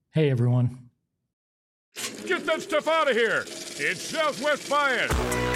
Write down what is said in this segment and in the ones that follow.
Hey, everyone. Get that stuff out of here! It's Southwest Bias!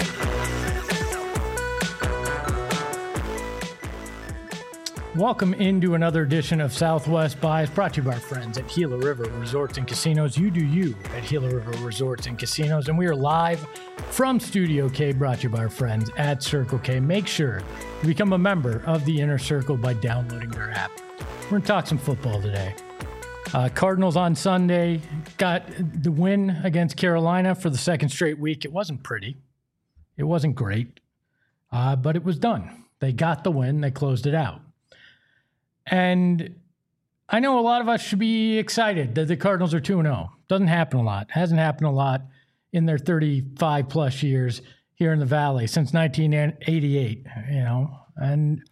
Welcome into another edition of Southwest Bias, brought to you by our friends at Gila River Resorts and Casinos. You do you at Gila River Resorts and Casinos. And we are live from Studio K, brought to you by our friends at Circle K. Make sure to become a member of the Inner Circle by downloading their app. We're going to talk some football today. Cardinals on Sunday got the win against Carolina for the second straight week. It wasn't pretty. It wasn't great, but it was done. They got the win. They closed it out. And I know a lot of us should be excited that the Cardinals are 2-0. Doesn't happen a lot. Hasn't happened a lot in their 35-plus years here in the Valley since 1988, and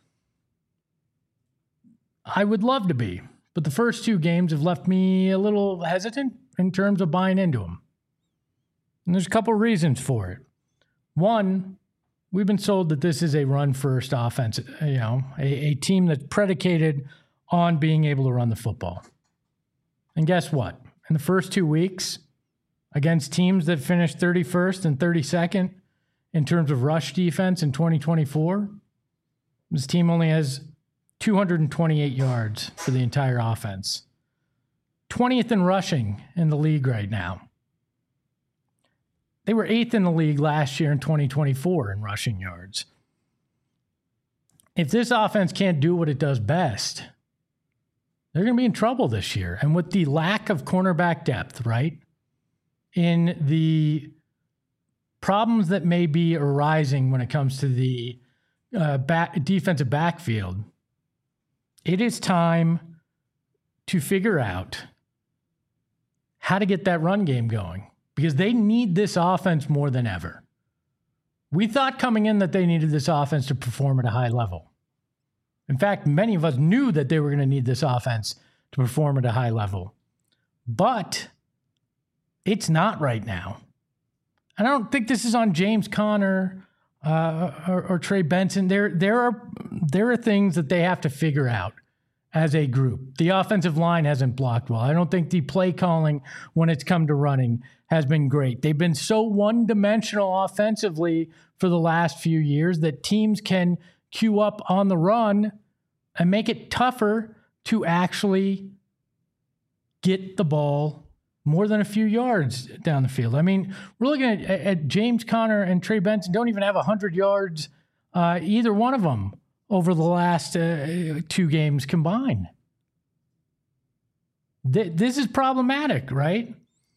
I would love to be. But the first two games have left me a little hesitant in terms of buying into them. And there's a couple reasons for it. One, we've been sold that this is a run-first offense, a team that's predicated on being able to run the football. And guess what? In the first 2 weeks, against teams that finished 31st and 32nd in terms of rush defense in 2024, this team only has 228 yards for the entire offense. 20th in rushing in the league right now. They were 8th in the league last year in 2024 in rushing yards. If this offense can't do what it does best, they're going to be in trouble this year. And with the lack of cornerback depth, right, in the problems that may be arising when it comes to the defensive backfield, it is time to figure out how to get that run game going because they need this offense more than ever. We thought coming in that they needed this offense to perform at a high level. In fact, many of us knew that they were going to need this offense to perform at a high level. But it's not right now. And I don't think this is on James Conner or Trey Benson. There are things that they have to figure out as a group. The offensive line hasn't blocked well. I don't think the play calling when it's come to running has been great. They've been so one-dimensional offensively for the last few years that teams can queue up on the run and make it tougher to actually get the ball more than a few yards down the field. I mean, we're looking at James Conner and Trey Benson don't even have 100 yards, either one of them, over the last 2 games combined. This is problematic, right?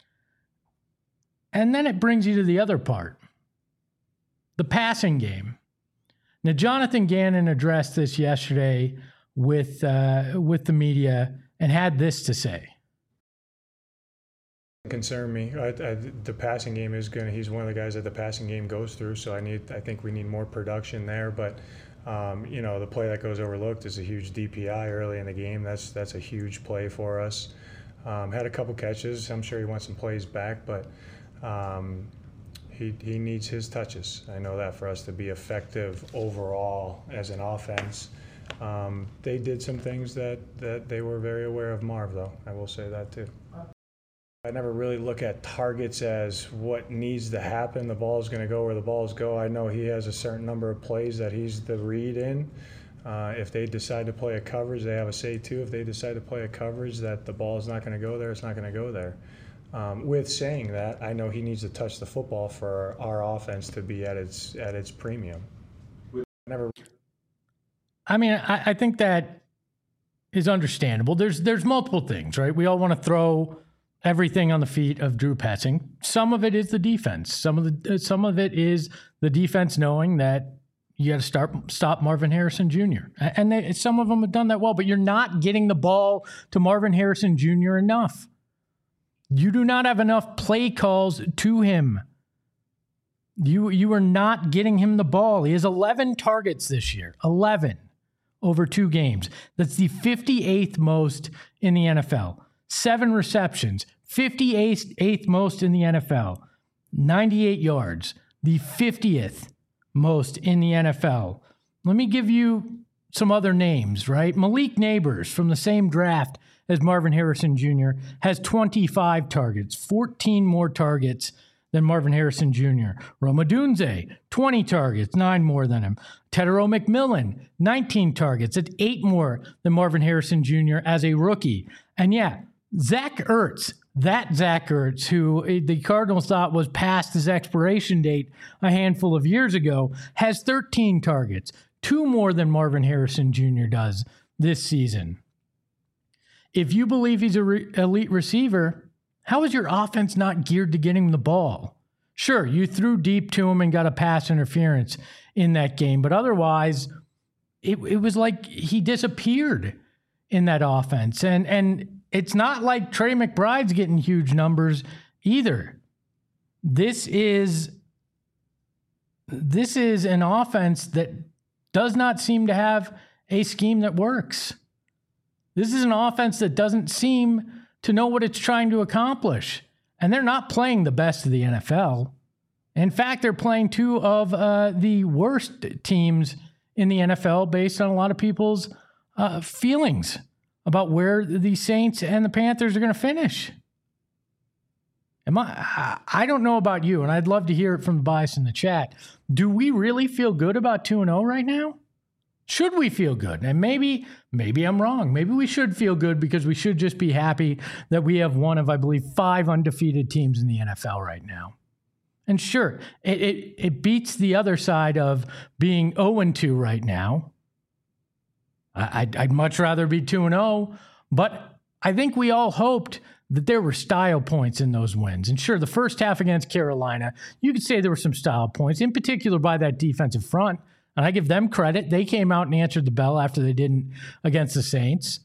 And then it brings you to the other part, the passing game. Now, Jonathan Gannon addressed this yesterday with the media and had this to say. Concern me. The passing game is he's one of the guys that the passing game goes through. So I think we need more production there. But the play that goes overlooked is a huge DPI early in the game. That's a huge play for us. Had a couple catches. I'm sure he wants some plays back, but he needs his touches. I know that for us to be effective overall as an offense. They did some things that they were very aware of Marv, though. I will say that too. I never really look at targets as what needs to happen. The ball is going to go where the balls go. I know he has a certain number of plays that he's the read in. If they decide to play a coverage, they have a say too. If they decide to play a coverage that the ball is not going to go there, it's not going to go there. With saying that, I know he needs to touch the football for our offense to be at its premium. I think that is understandable. There's multiple things, right? We all want to throw everything on the feet of Drew Petzing. Some of it is the defense. Some of it is the defense knowing that you got to stop Marvin Harrison Jr. And some of them have done that well, but you're not getting the ball to Marvin Harrison Jr. enough. You do not have enough play calls to him. You are not getting him the ball. He has 11 targets this year. 11 over 2 games. That's the 58th most in the NFL. 7 receptions, 58th most in the NFL. 98 yards, the 50th most in the NFL. Let me give you some other names, right? Malik Nabers from the same draft as Marvin Harrison Jr., has 25 targets, 14 more targets than Marvin Harrison Jr. Rome Odunze, 20 targets, 9 more than him. Tedero McMillan, 19 targets. It's 8 more than Marvin Harrison Jr. as a rookie. And yeah, Zach Ertz, who the Cardinals thought was past his expiration date a handful of years ago, has 13 targets, 2 more than Marvin Harrison Jr. does this season. If you believe he's an elite receiver, how is your offense not geared to getting him the ball? Sure, you threw deep to him and got a pass interference in that game, but otherwise, it was like he disappeared in that offense. And it's not like Trey McBride's getting huge numbers either. This is an offense that does not seem to have a scheme that works. This is an offense that doesn't seem to know what it's trying to accomplish. And they're not playing the best of the NFL. In fact, they're playing 2 of the worst teams in the NFL based on a lot of people's feelings about where the Saints and the Panthers are going to finish. I don't know about you, and I'd love to hear it from the bias in the chat. Do we really feel good about 2-0 right now? Should we feel good? And maybe I'm wrong. Maybe we should feel good because we should just be happy that we have one of, I believe, 5 undefeated teams in the NFL right now. And sure, it beats the other side of being 0-2 right now. I'd much rather be 2-0, but I think we all hoped that there were style points in those wins. And sure, the first half against Carolina, you could say there were some style points, in particular by that defensive front. And I give them credit. They came out and answered the bell after they didn't against the Saints.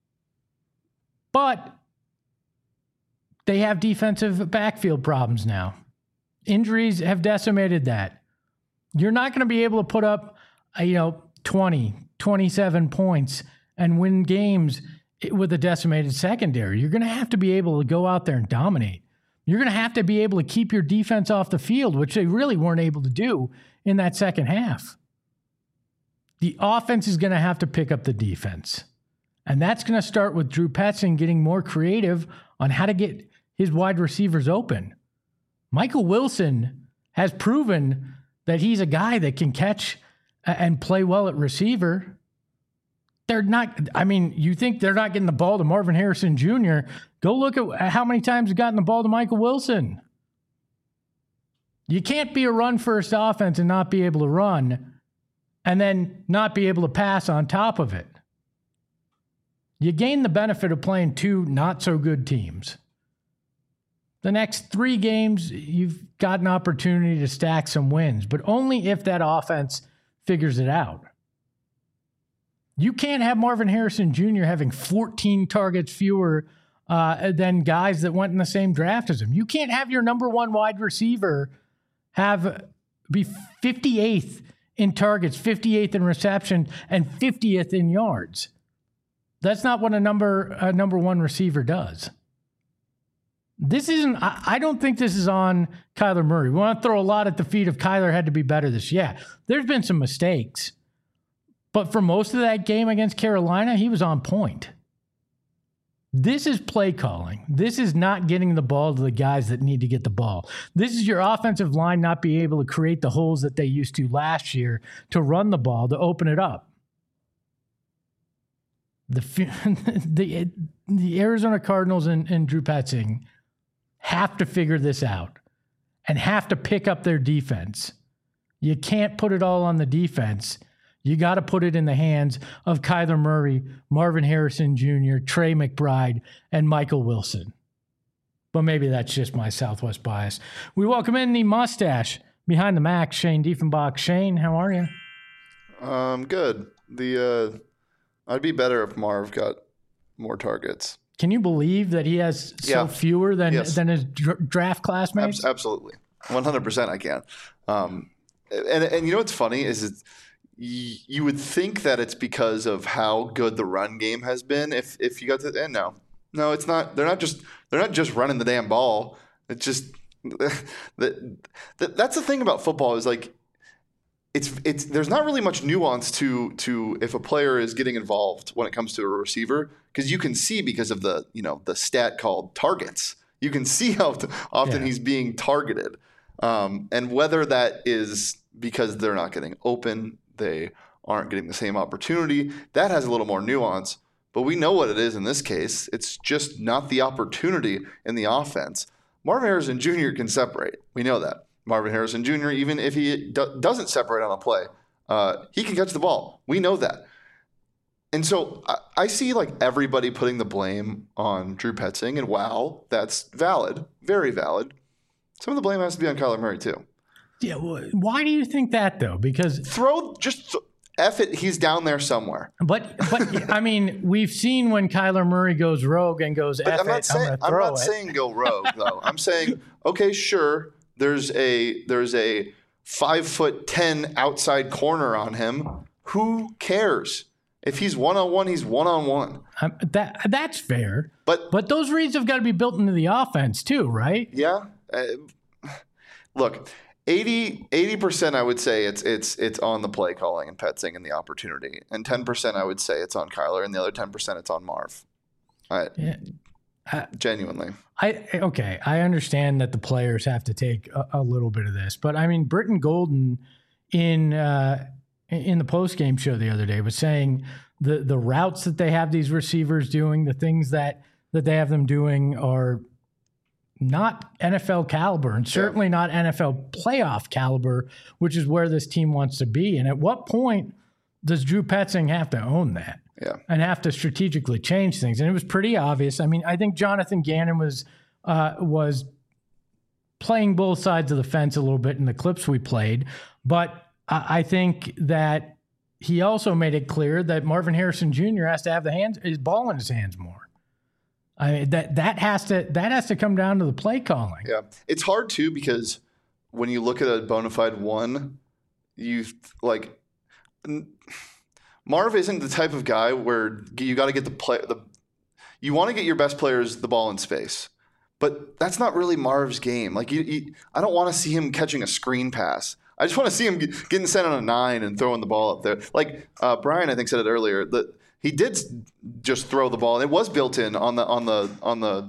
But they have defensive backfield problems now. Injuries have decimated that. You're not going to be able to put up, 20, 27 points and win games with a decimated secondary. You're going to have to be able to go out there and dominate. You're going to have to be able to keep your defense off the field, which they really weren't able to do in that second half. The offense is going to have to pick up the defense. And that's going to start with Drew Petzing getting more creative on how to get his wide receivers open. Michael Wilson has proven that he's a guy that can catch and play well at receiver. You think they're not getting the ball to Marvin Harrison Jr. Go look at how many times he's gotten the ball to Michael Wilson. You can't be a run-first offense and not be able to run and then not be able to pass on top of it. You gain the benefit of playing 2 not-so-good teams. The next 3 games, you've got an opportunity to stack some wins, but only if that offense figures it out. You can't have Marvin Harrison Jr. having 14 targets fewer than guys that went in the same draft as him. You can't have your number 1 wide receiver be 58th in targets, 58th in reception, and 50th in yards. That's not what a number 1 receiver does. I don't think this is on Kyler Murray. We want to throw a lot at the feet of Kyler had to be better this year. Yeah, there's been some mistakes. But for most of that game against Carolina, he was on point. This is play calling. This is not getting the ball to the guys that need to get the ball. This is your offensive line not being able to create the holes that they used to last year to run the ball, to open it up. The Arizona Cardinals and Drew Petzing have to figure this out and have to pick up their defense. You can't put it all on the defense. You got to put it in the hands of Kyler Murray, Marvin Harrison Jr., Trey McBride, and Michael Wilson. But maybe that's just my Southwest bias. We welcome in the mustache behind the Mac, Shane Diefenbach. Shane, how are you? Good. I'd be better if Marv got more targets. Can you believe that he has fewer than his draft classmates? Absolutely. 100% I can. And you know what's funny is you would think that it's because of how good the run game has been if you got to the end. No, it's not. They're not just running the damn ball. It's just that's the thing about football is like there's not really much nuance to if a player is getting involved when it comes to a receiver, because you can see because of the stat called targets. You can see how often he's being targeted, and whether that is because they're not getting open, they aren't getting the same opportunity. That has a little more nuance, but we know what it is in this case. It's just not the opportunity in the offense. Marvin Harrison Jr. can separate. We know that. Marvin Harrison Jr., even if he doesn't separate on a play, he can catch the ball. We know that. And so I see like everybody putting the blame on Drew Petzing, and wow, that's valid, very valid. Some of the blame has to be on Kyler Murray too. Yeah, why do you think that though? Because F it, he's down there somewhere. But I mean, we've seen when Kyler Murray goes rogue and goes F I'm not saying go rogue though. I'm saying, okay, sure. There's a 5'10" outside corner on him. Who cares? If he's one-on-one, he's one-on-one. That's fair. But those reads have got to be built into the offense too, right? Yeah. Look, 80% I would say it's on the play calling and Petzing and the opportunity, and 10% I would say it's on Kyler, and the other 10% it's on Marv. Genuinely. I understand that the players have to take a little bit of this, but I mean, Britton Golden in the post-game show the other day was saying the routes that they have these receivers doing, the things that they have them doing are not NFL caliber, and certainly not NFL playoff caliber, which is where this team wants to be. And at what point does Drew Petzing have to own that? Yeah. And have to strategically change things? And it was pretty obvious. I mean, I think Jonathan Gannon was playing both sides of the fence a little bit in the clips we played, but I think that he also made it clear that Marvin Harrison Jr. has to have his ball in his hands more. I mean, that has to come down to the play calling. Yeah, it's hard too, because when you look at a bona fide one, Marv isn't the type of guy where you got to get you want to get your best players the ball in space, but that's not really Marv's game. Like I don't want to see him catching a screen pass. I just want to see him getting sent on a 9 and throwing the ball up there. Like Brian, I think, said it earlier, that he did just throw the ball, and it was built in on the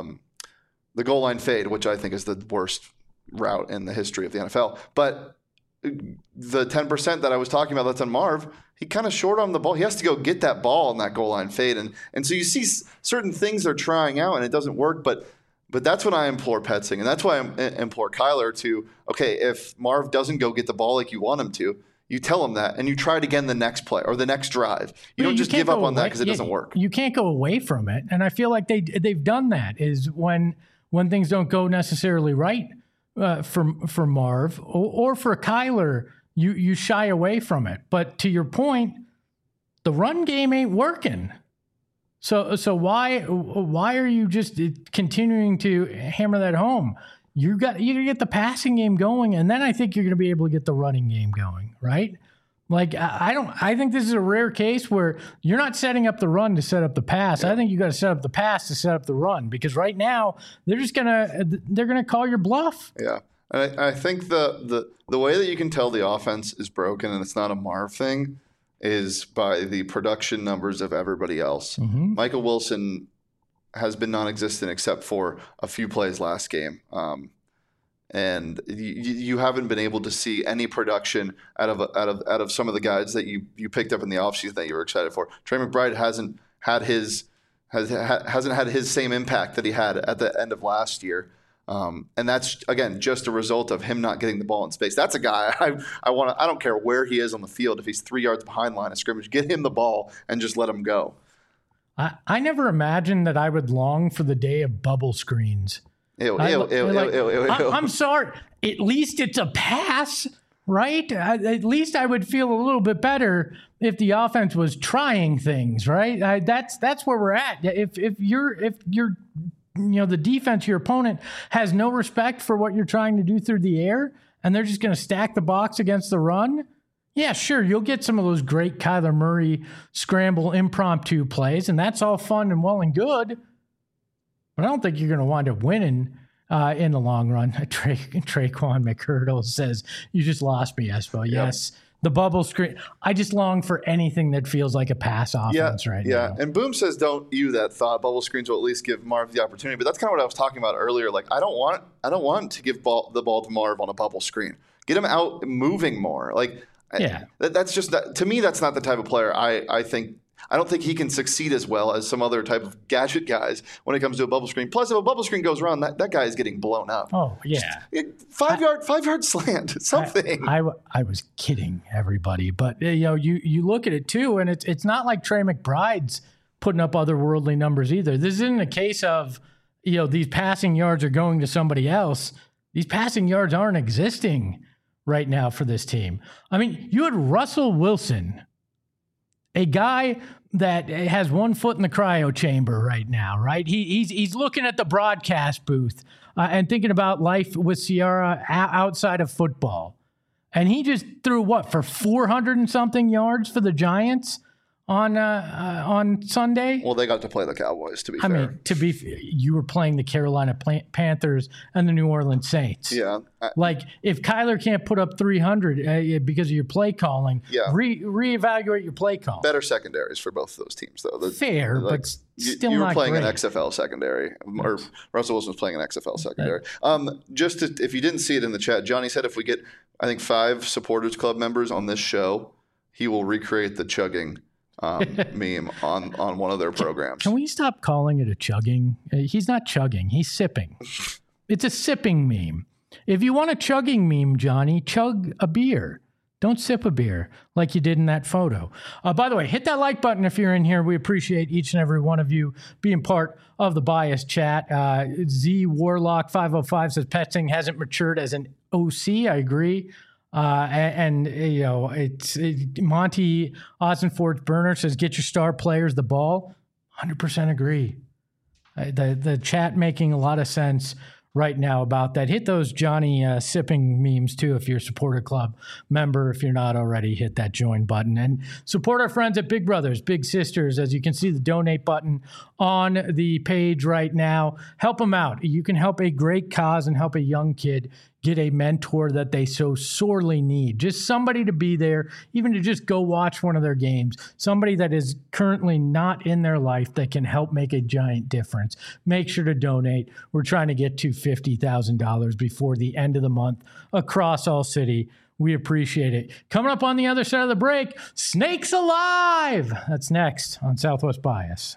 goal line fade, which I think is the worst route in the history of the NFL. But the 10% that I was talking about that's on Marv, he kind of short on the ball. He has to go get that ball in that goal line fade. And so you see certain things they're trying out and it doesn't work. But that's when I implore Petzing, and that's why I implore Kyler to, okay, if Marv doesn't go get the ball like you want him to, you tell him that, and you try it again the next play or the next drive. You don't just give up on that because it doesn't work. You can't go away from it. And I feel like they've done that, is when things don't go necessarily right for Marv or for Kyler, you shy away from it. But to your point, the run game ain't working. So why are you just continuing to hammer that home? You got to get the passing game going, and then I think you're going to be able to get the running game going, right? Like I think this is a rare case where you're not setting up the run to set up the pass. Yeah. I think you got to set up the pass to set up the run, because right now they're gonna call your bluff. Yeah, and I think the way that you can tell the offense is broken and it's not a Marv thing is by the production numbers of everybody else. Mm-hmm. Michael Wilson has been non-existent except for a few plays last game. And you haven't been able to see any production out of some of the guys that you picked up in the offseason that you were excited for. Trey McBride hasn't had his same impact that he had at the end of last year. And that's, again, just a result of him not getting the ball in space. That's a guy I don't care where he is on the field. If he's 3 yards behind line of scrimmage, get him the ball and just let him go. I never imagined that I would long for the day of bubble screens. I'm sorry. At least it's a pass, right? At least I would feel a little bit better if the offense was trying things, right? That's where we're at. If you're the defense, your opponent has no respect for what you're trying to do through the air, and they're just going to stack the box against the run. Yeah, sure, you'll get some of those great Kyler Murray scramble impromptu plays, and that's all fun and well and good. But I don't think you're going to wind up winning in the long run. Traquan McHurdle says, you just lost me, Espo. Yes. The bubble screen. I just long for anything that feels like a pass offense right now. Yeah, and Boom says don't you that thought. Bubble screens will at least give Marv the opportunity. But that's kind of what I was talking about earlier. Like I don't want to give the ball to Marv on a bubble screen. Get him out moving more. Like that's just to me. That's not the type of player I think. I don't think he can succeed as well as some other type of gadget guys when it comes to a bubble screen. Plus, if a bubble screen goes wrong, that guy is getting blown up. Oh, yeah. Just 5-yard slant, something. I was kidding everybody. But, you look at it, too, and it's not like Trey McBride's putting up otherworldly numbers either. This isn't a case of, these passing yards are going to somebody else. These passing yards aren't existing right now for this team. I mean, you had Russell Wilson, a guy that has one foot in the cryo chamber right now, right? He's looking at the broadcast booth and thinking about life with Ciara outside of football. And he just threw for 400 and something yards for the Giants on Sunday. Well, they got to play the Cowboys, to be fair. I mean, you were playing the Carolina Panthers and the New Orleans Saints. Yeah. Like, if Kyler can't put up 300 because of your play calling, reevaluate your play call. Better secondaries for both of those teams, though. Fair, but still not great. You were playing an XFL secondary, or Russell Wilson was playing an XFL secondary. If you didn't see it in the chat, Johnny said if we get, I think, 5 Supporters Club members on this show, he will recreate the chugging meme on one of their programs. Can we stop calling it a chugging? He's not chugging. He's sipping. It's a sipping meme. If you want a chugging meme, Johnny, chug a beer. Don't sip a beer like you did in that photo. By the way, hit that like button if you're in here. We appreciate each and every one of you being part of the Bias chat. Z Warlock 505 says Petzing hasn't matured as an OC. I agree. It's Monty Ossenfort Burner says, get your star players the ball. 100% agree. The chat making a lot of sense right now about that. Hit those Johnny sipping memes too if you're a Supporter Club member. If you're not already, hit that join button and support our friends at Big Brothers Big Sisters. As you can see, the donate button on the page right now. Help them out. You can help a great cause and help a young kid get a mentor that they so sorely need. Just somebody to be there, even to just go watch one of their games. Somebody that is currently not in their life that can help make a giant difference. Make sure to donate. We're trying to get to $50,000 before the end of the month across all city. We appreciate it. Coming up on the other side of the break, Snakes Alive! That's next on Southwest Bias.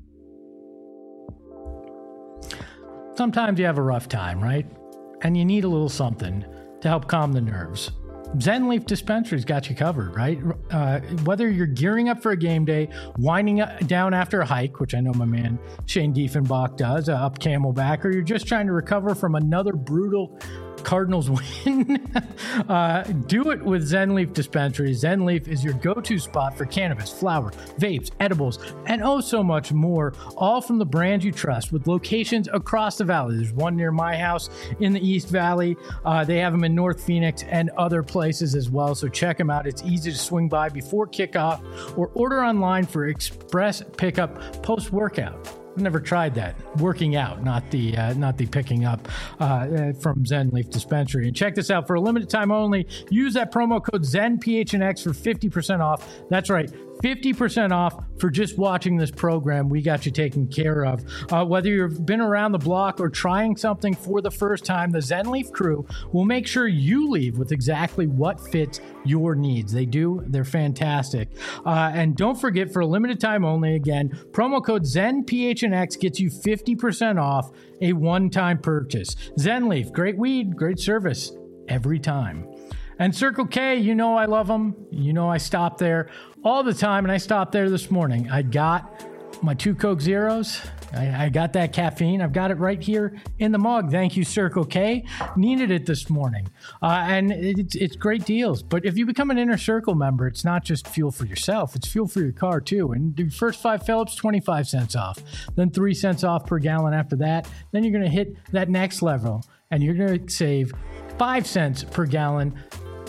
Sometimes you have a rough time, right? And you need a little something to help calm the nerves. Zen Leaf Dispensary's got you covered, right? Whether you're gearing up for a game day, winding down after a hike, which I know my man Shane Diefenbach does, up Camelback, or you're just trying to recover from another brutal Cardinals win, do it with Zen Leaf Dispensary. Zen Leaf is your go-to spot for cannabis, flower, vapes, edibles, and oh so much more, all from the brands you trust with locations across the valley. There's one near my house in the East Valley. They have them in North Phoenix and other places as well, so check them out. It's easy to swing by before kickoff or order online for express pickup post-workout. I've never tried that. Working out, not the picking up from Zen Leaf Dispensary. And check this out. For a limited time only, use that promo code ZenPHNX for 50% off. That's right, 50% off for just watching this program. We got you taken care of. Whether you've been around the block or trying something for the first time, the Zen Leaf crew will make sure you leave with exactly what fits your needs. They do. They're fantastic. And don't forget, for a limited time only, again, promo code ZenPHNX gets you 50% off a one-time purchase. Zen Leaf, great weed, great service every time. And Circle K, you know I love them. You know I stop there all the time, and I stopped there this morning. I got my 2 Coke Zeros. I got that caffeine. I've got it right here in the mug. Thank you, Circle K. Needed it this morning. And it's great deals. But if you become an Inner Circle member, it's not just fuel for yourself. It's fuel for your car, too. And the first 5 fill-ups, 25 cents off. Then 3 cents off per gallon after that. Then you're going to hit that next level, and you're going to save 5 cents per gallon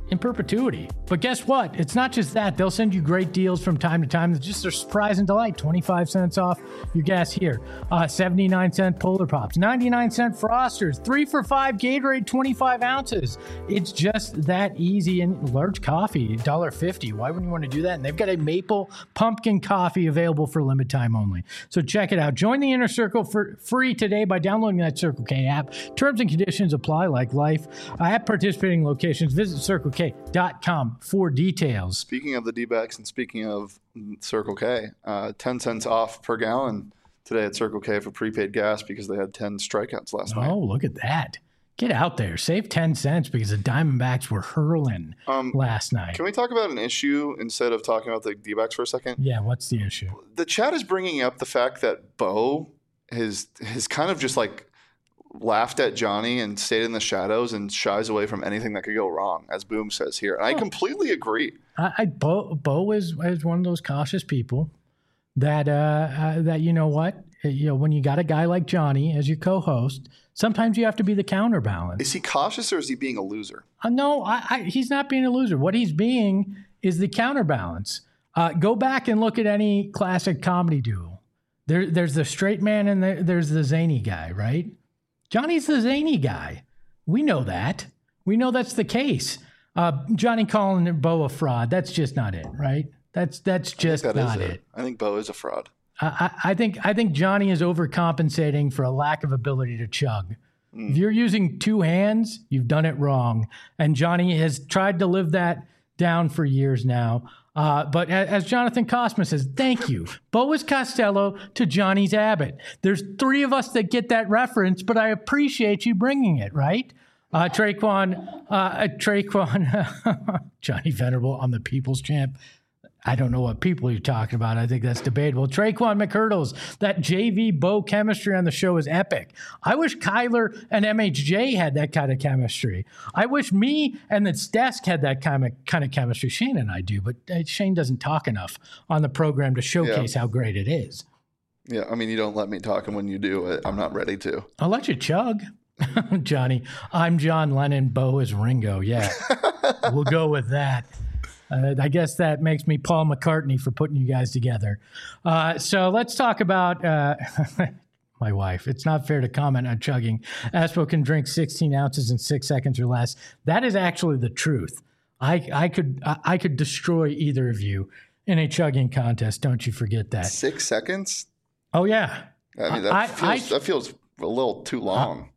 in perpetuity. But guess what? It's not just that. They'll send you great deals from time to time. It's just a surprise and delight. 25 cents off your gas here. 79-cent Polar Pops. 99-cent Frosters. 3 for $5 Gatorade 25 ounces. It's just that easy. And large coffee, $1.50. Why wouldn't you want to do that? And they've got a maple pumpkin coffee available for limited time only. So check it out. Join the Inner Circle for free today by downloading that Circle K app. Terms and conditions apply like life. At participating locations, visit CircleK.com for details. Speaking of the D-backs and speaking of Circle K, 10 cents off per gallon today at Circle K for prepaid gas because they had 10 strikeouts last night. Oh, look at that. Get out there. Save 10 cents because the Diamondbacks were hurling last night. Can we talk about an issue instead of talking about the D-backs for a second? Yeah, what's the issue? The chat is bringing up the fact that Bo has kind of just like laughed at Johnny and stayed in the shadows and shies away from anything that could go wrong, as Boom says here. And I completely agree. Bo is one of those cautious people that you know what? When you got a guy like Johnny as your co-host, sometimes you have to be the counterbalance. Is he cautious or is he being a loser? No, he's not being a loser. What he's being is the counterbalance. Go back and look at any classic comedy duo. There's the straight man and there's the zany guy, right? Johnny's the zany guy. We know that. We know that's the case. Johnny calling Bo a fraud, that's just not it, right? That's just not it. I think Bo is a fraud. I think Johnny is overcompensating for a lack of ability to chug. If you're using two hands, you've done it wrong. And Johnny has tried to live that down for years now. But as Jonathan Cosma says, thank you. Bo is Costello to Johnny's Abbott. There's 3 of us that get that reference, but I appreciate you bringing it, right? Traquan, Johnny Venerable, I'm the people's champ. I don't know what people you're talking about. I think that's debatable. Traquan McCurdles, that JV Bo chemistry on the show is epic. I wish Kyler and MHJ had that kind of chemistry. I wish me and the desk had that kind of chemistry. Shane and I do, but Shane doesn't talk enough on the program to showcase how great it is. Yeah, I mean, you don't let me talk, and when you do, I'm not ready to. I'll let you chug. Johnny, I'm John Lennon, Bo is Ringo. Yeah, we'll go with that. I guess that makes me Paul McCartney for putting you guys together. So let's talk about my wife. It's not fair to comment on chugging. Aspo can drink 16 ounces in 6 seconds or less. That is actually the truth. I could destroy either of you in a chugging contest. Don't you forget that. 6 seconds? Oh, yeah. I mean, that feels a little too long.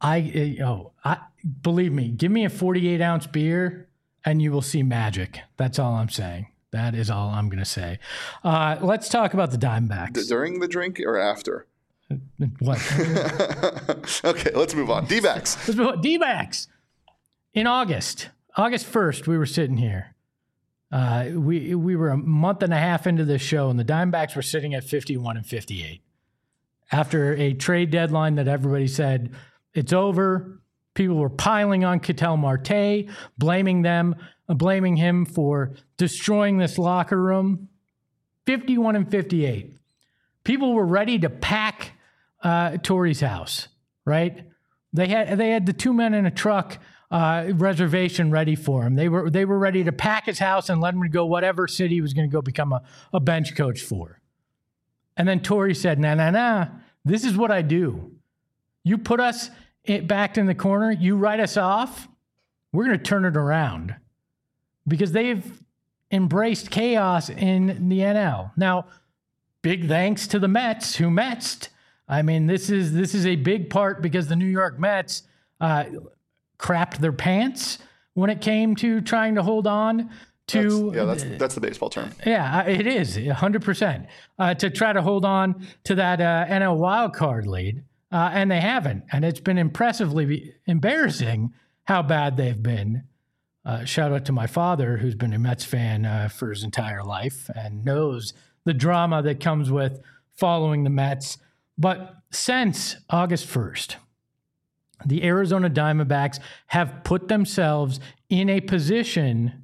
Believe me, give me a 48-ounce beer and you will see magic. That's all I'm saying. That is all I'm going to say. Let's talk about the Diamondbacks. During the drink or after? What? Okay, let's move on. D-backs. Let's move on. D-backs. In August 1st, we were sitting here. We were a month and a half into this show, and the Diamondbacks were sitting at 51-58. After a trade deadline that everybody said, it's over. People were piling on Ketel Marte, blaming him for destroying this locker room. 51-58. People were ready to pack Torey's house, right? They had the 2 men in a truck reservation ready for him. They were ready to pack his house and let him go whatever city he was going to go become a bench coach for. And then Torey said, nah, this is what I do. You put us backed in the corner, you write us off, we're going to turn it around. Because they've embraced chaos in the NL. Now, big thanks to the Mets, who Metsed. I mean, this is a big part because the New York Mets crapped their pants when it came to trying to hold on to... That's the baseball term. Yeah, it is, 100%. To try to hold on to that NL wildcard lead, and they haven't. And it's been impressively embarrassing how bad they've been. Shout out to my father, who's been a Mets fan for his entire life and knows the drama that comes with following the Mets. But since August 1st, the Arizona Diamondbacks have put themselves in a position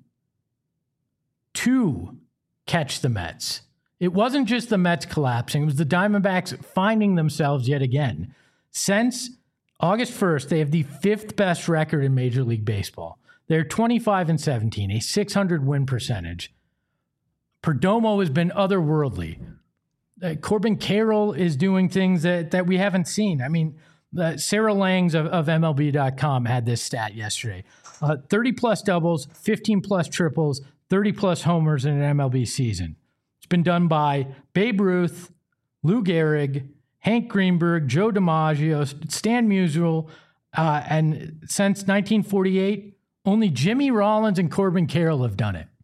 to catch the Mets. It wasn't just the Mets collapsing. It was the Diamondbacks finding themselves yet again. Since August 1st, they have the 5th best record in Major League Baseball. They're 25-17, a 600 win percentage. Perdomo has been otherworldly. Corbin Carroll is doing things that we haven't seen. I mean, Sarah Langs of MLB.com had this stat yesterday. 30-plus doubles, 15-plus triples, 30-plus homers in an MLB season. It's been done by Babe Ruth, Lou Gehrig, Hank Greenberg, Joe DiMaggio, Stan Musial, and since 1948, only Jimmy Rollins and Corbin Carroll have done it.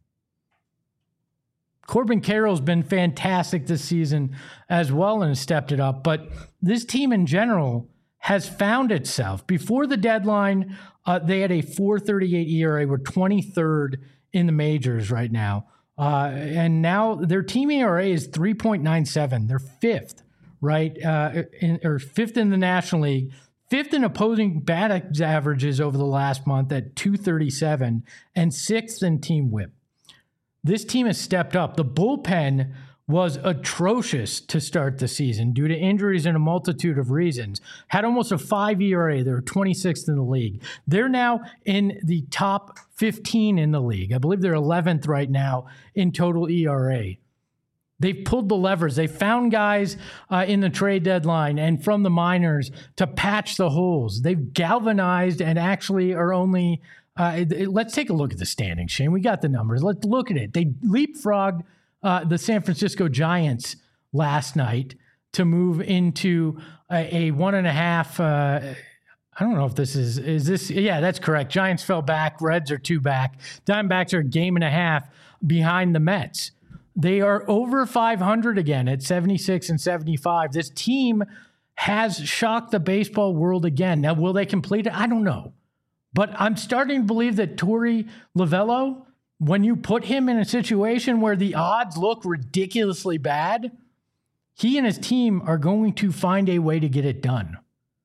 Corbin Carroll's been fantastic this season as well and has stepped it up, but this team in general has found itself. Before the deadline, they had a 4.38 ERA. We're 23rd in the majors right now. And now their team ERA is 3.97. They're fifth, right? Or fifth in the National League, fifth in opposing batting averages over the last month at 237, and sixth in team whip. This team has stepped up. The bullpen was atrocious to start the season due to injuries and a multitude of reasons. Had almost a 5 ERA. They were 26th in the league. They're now in the top 15 in the league. I believe they're 11th right now in total ERA. They've pulled the levers. They found guys in the trade deadline and from the minors to patch the holes. They've galvanized and actually are only... let's take a look at the standings, Shane. We got the numbers. Let's look at it. They leapfrogged the San Francisco Giants last night to move into a 1.5. I don't know if this is this. Yeah, that's correct. Giants fell back. Reds are 2 back. Diamondbacks are a 1.5 behind the Mets. They are over 500 again at 76-75. This team has shocked the baseball world again. Now, will they complete it? I don't know. But I'm starting to believe that Torey Lovullo, when you put him in a situation where the odds look ridiculously bad, he and his team are going to find a way to get it done.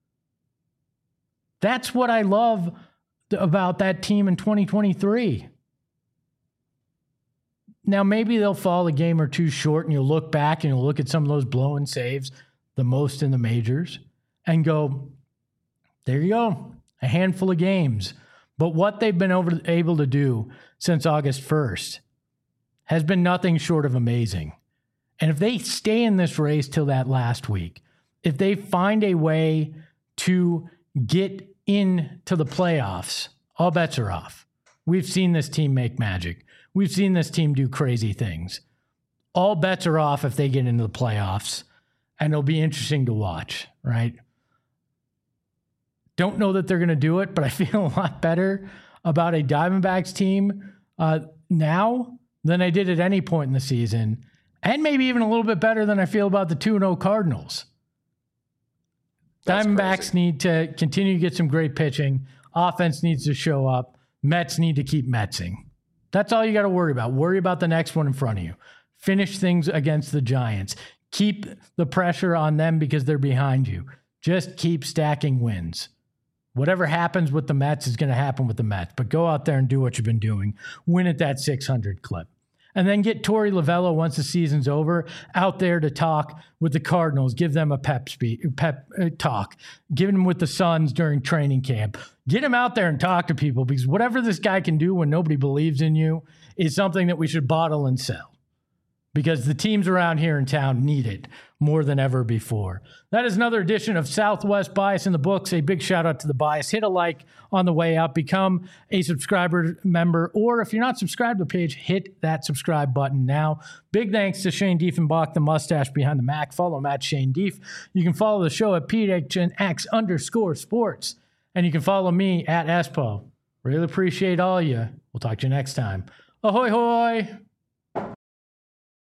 That's what I love about that team in 2023. Now, maybe they'll fall a game or two short, and you'll look back and you'll look at some of those blow-in saves, the most in the majors, and go, there you go. A handful of games. But what they've been able to do since August 1st has been nothing short of amazing. And if they stay in this race till that last week, if they find a way to get into the playoffs, all bets are off. We've seen this team make magic. We've seen this team do crazy things. All bets are off if they get into the playoffs, and it'll be interesting to watch, right? Don't know that they're going to do it, but I feel a lot better about a Diamondbacks team now than I did at any point in the season, and maybe even a little bit better than I feel about the 2-0 Cardinals. Diamondbacks need to continue to get some great pitching. Offense needs to show up. Mets need to keep Metsing. That's all you got to worry about. Worry about the next one in front of you. Finish things against the Giants. Keep the pressure on them because they're behind you. Just keep stacking wins. Whatever happens with the Mets is going to happen with the Mets. But go out there and do what you've been doing. Win at that 600 clip. And then get Torey Lovullo, once the season's over, out there to talk with the Cardinals. Give them a pep talk. Give him with the Suns during training camp. Get him out there and talk to people, because whatever this guy can do when nobody believes in you is something that we should bottle and sell. Because the teams around here in town need it more than ever before. That is another edition of Southwest Bias in the books. A big shout out to the Bias. Hit a like on the way out. Become a subscriber member. Or if you're not subscribed to the page, hit that subscribe button now. Big thanks to Shane Diefenbach, the mustache behind the Mac. Follow him at Shane Dief. You can follow the show at PHNX_sports. And you can follow me at Espo. Really appreciate all of you. We'll talk to you next time. Ahoy, hoy!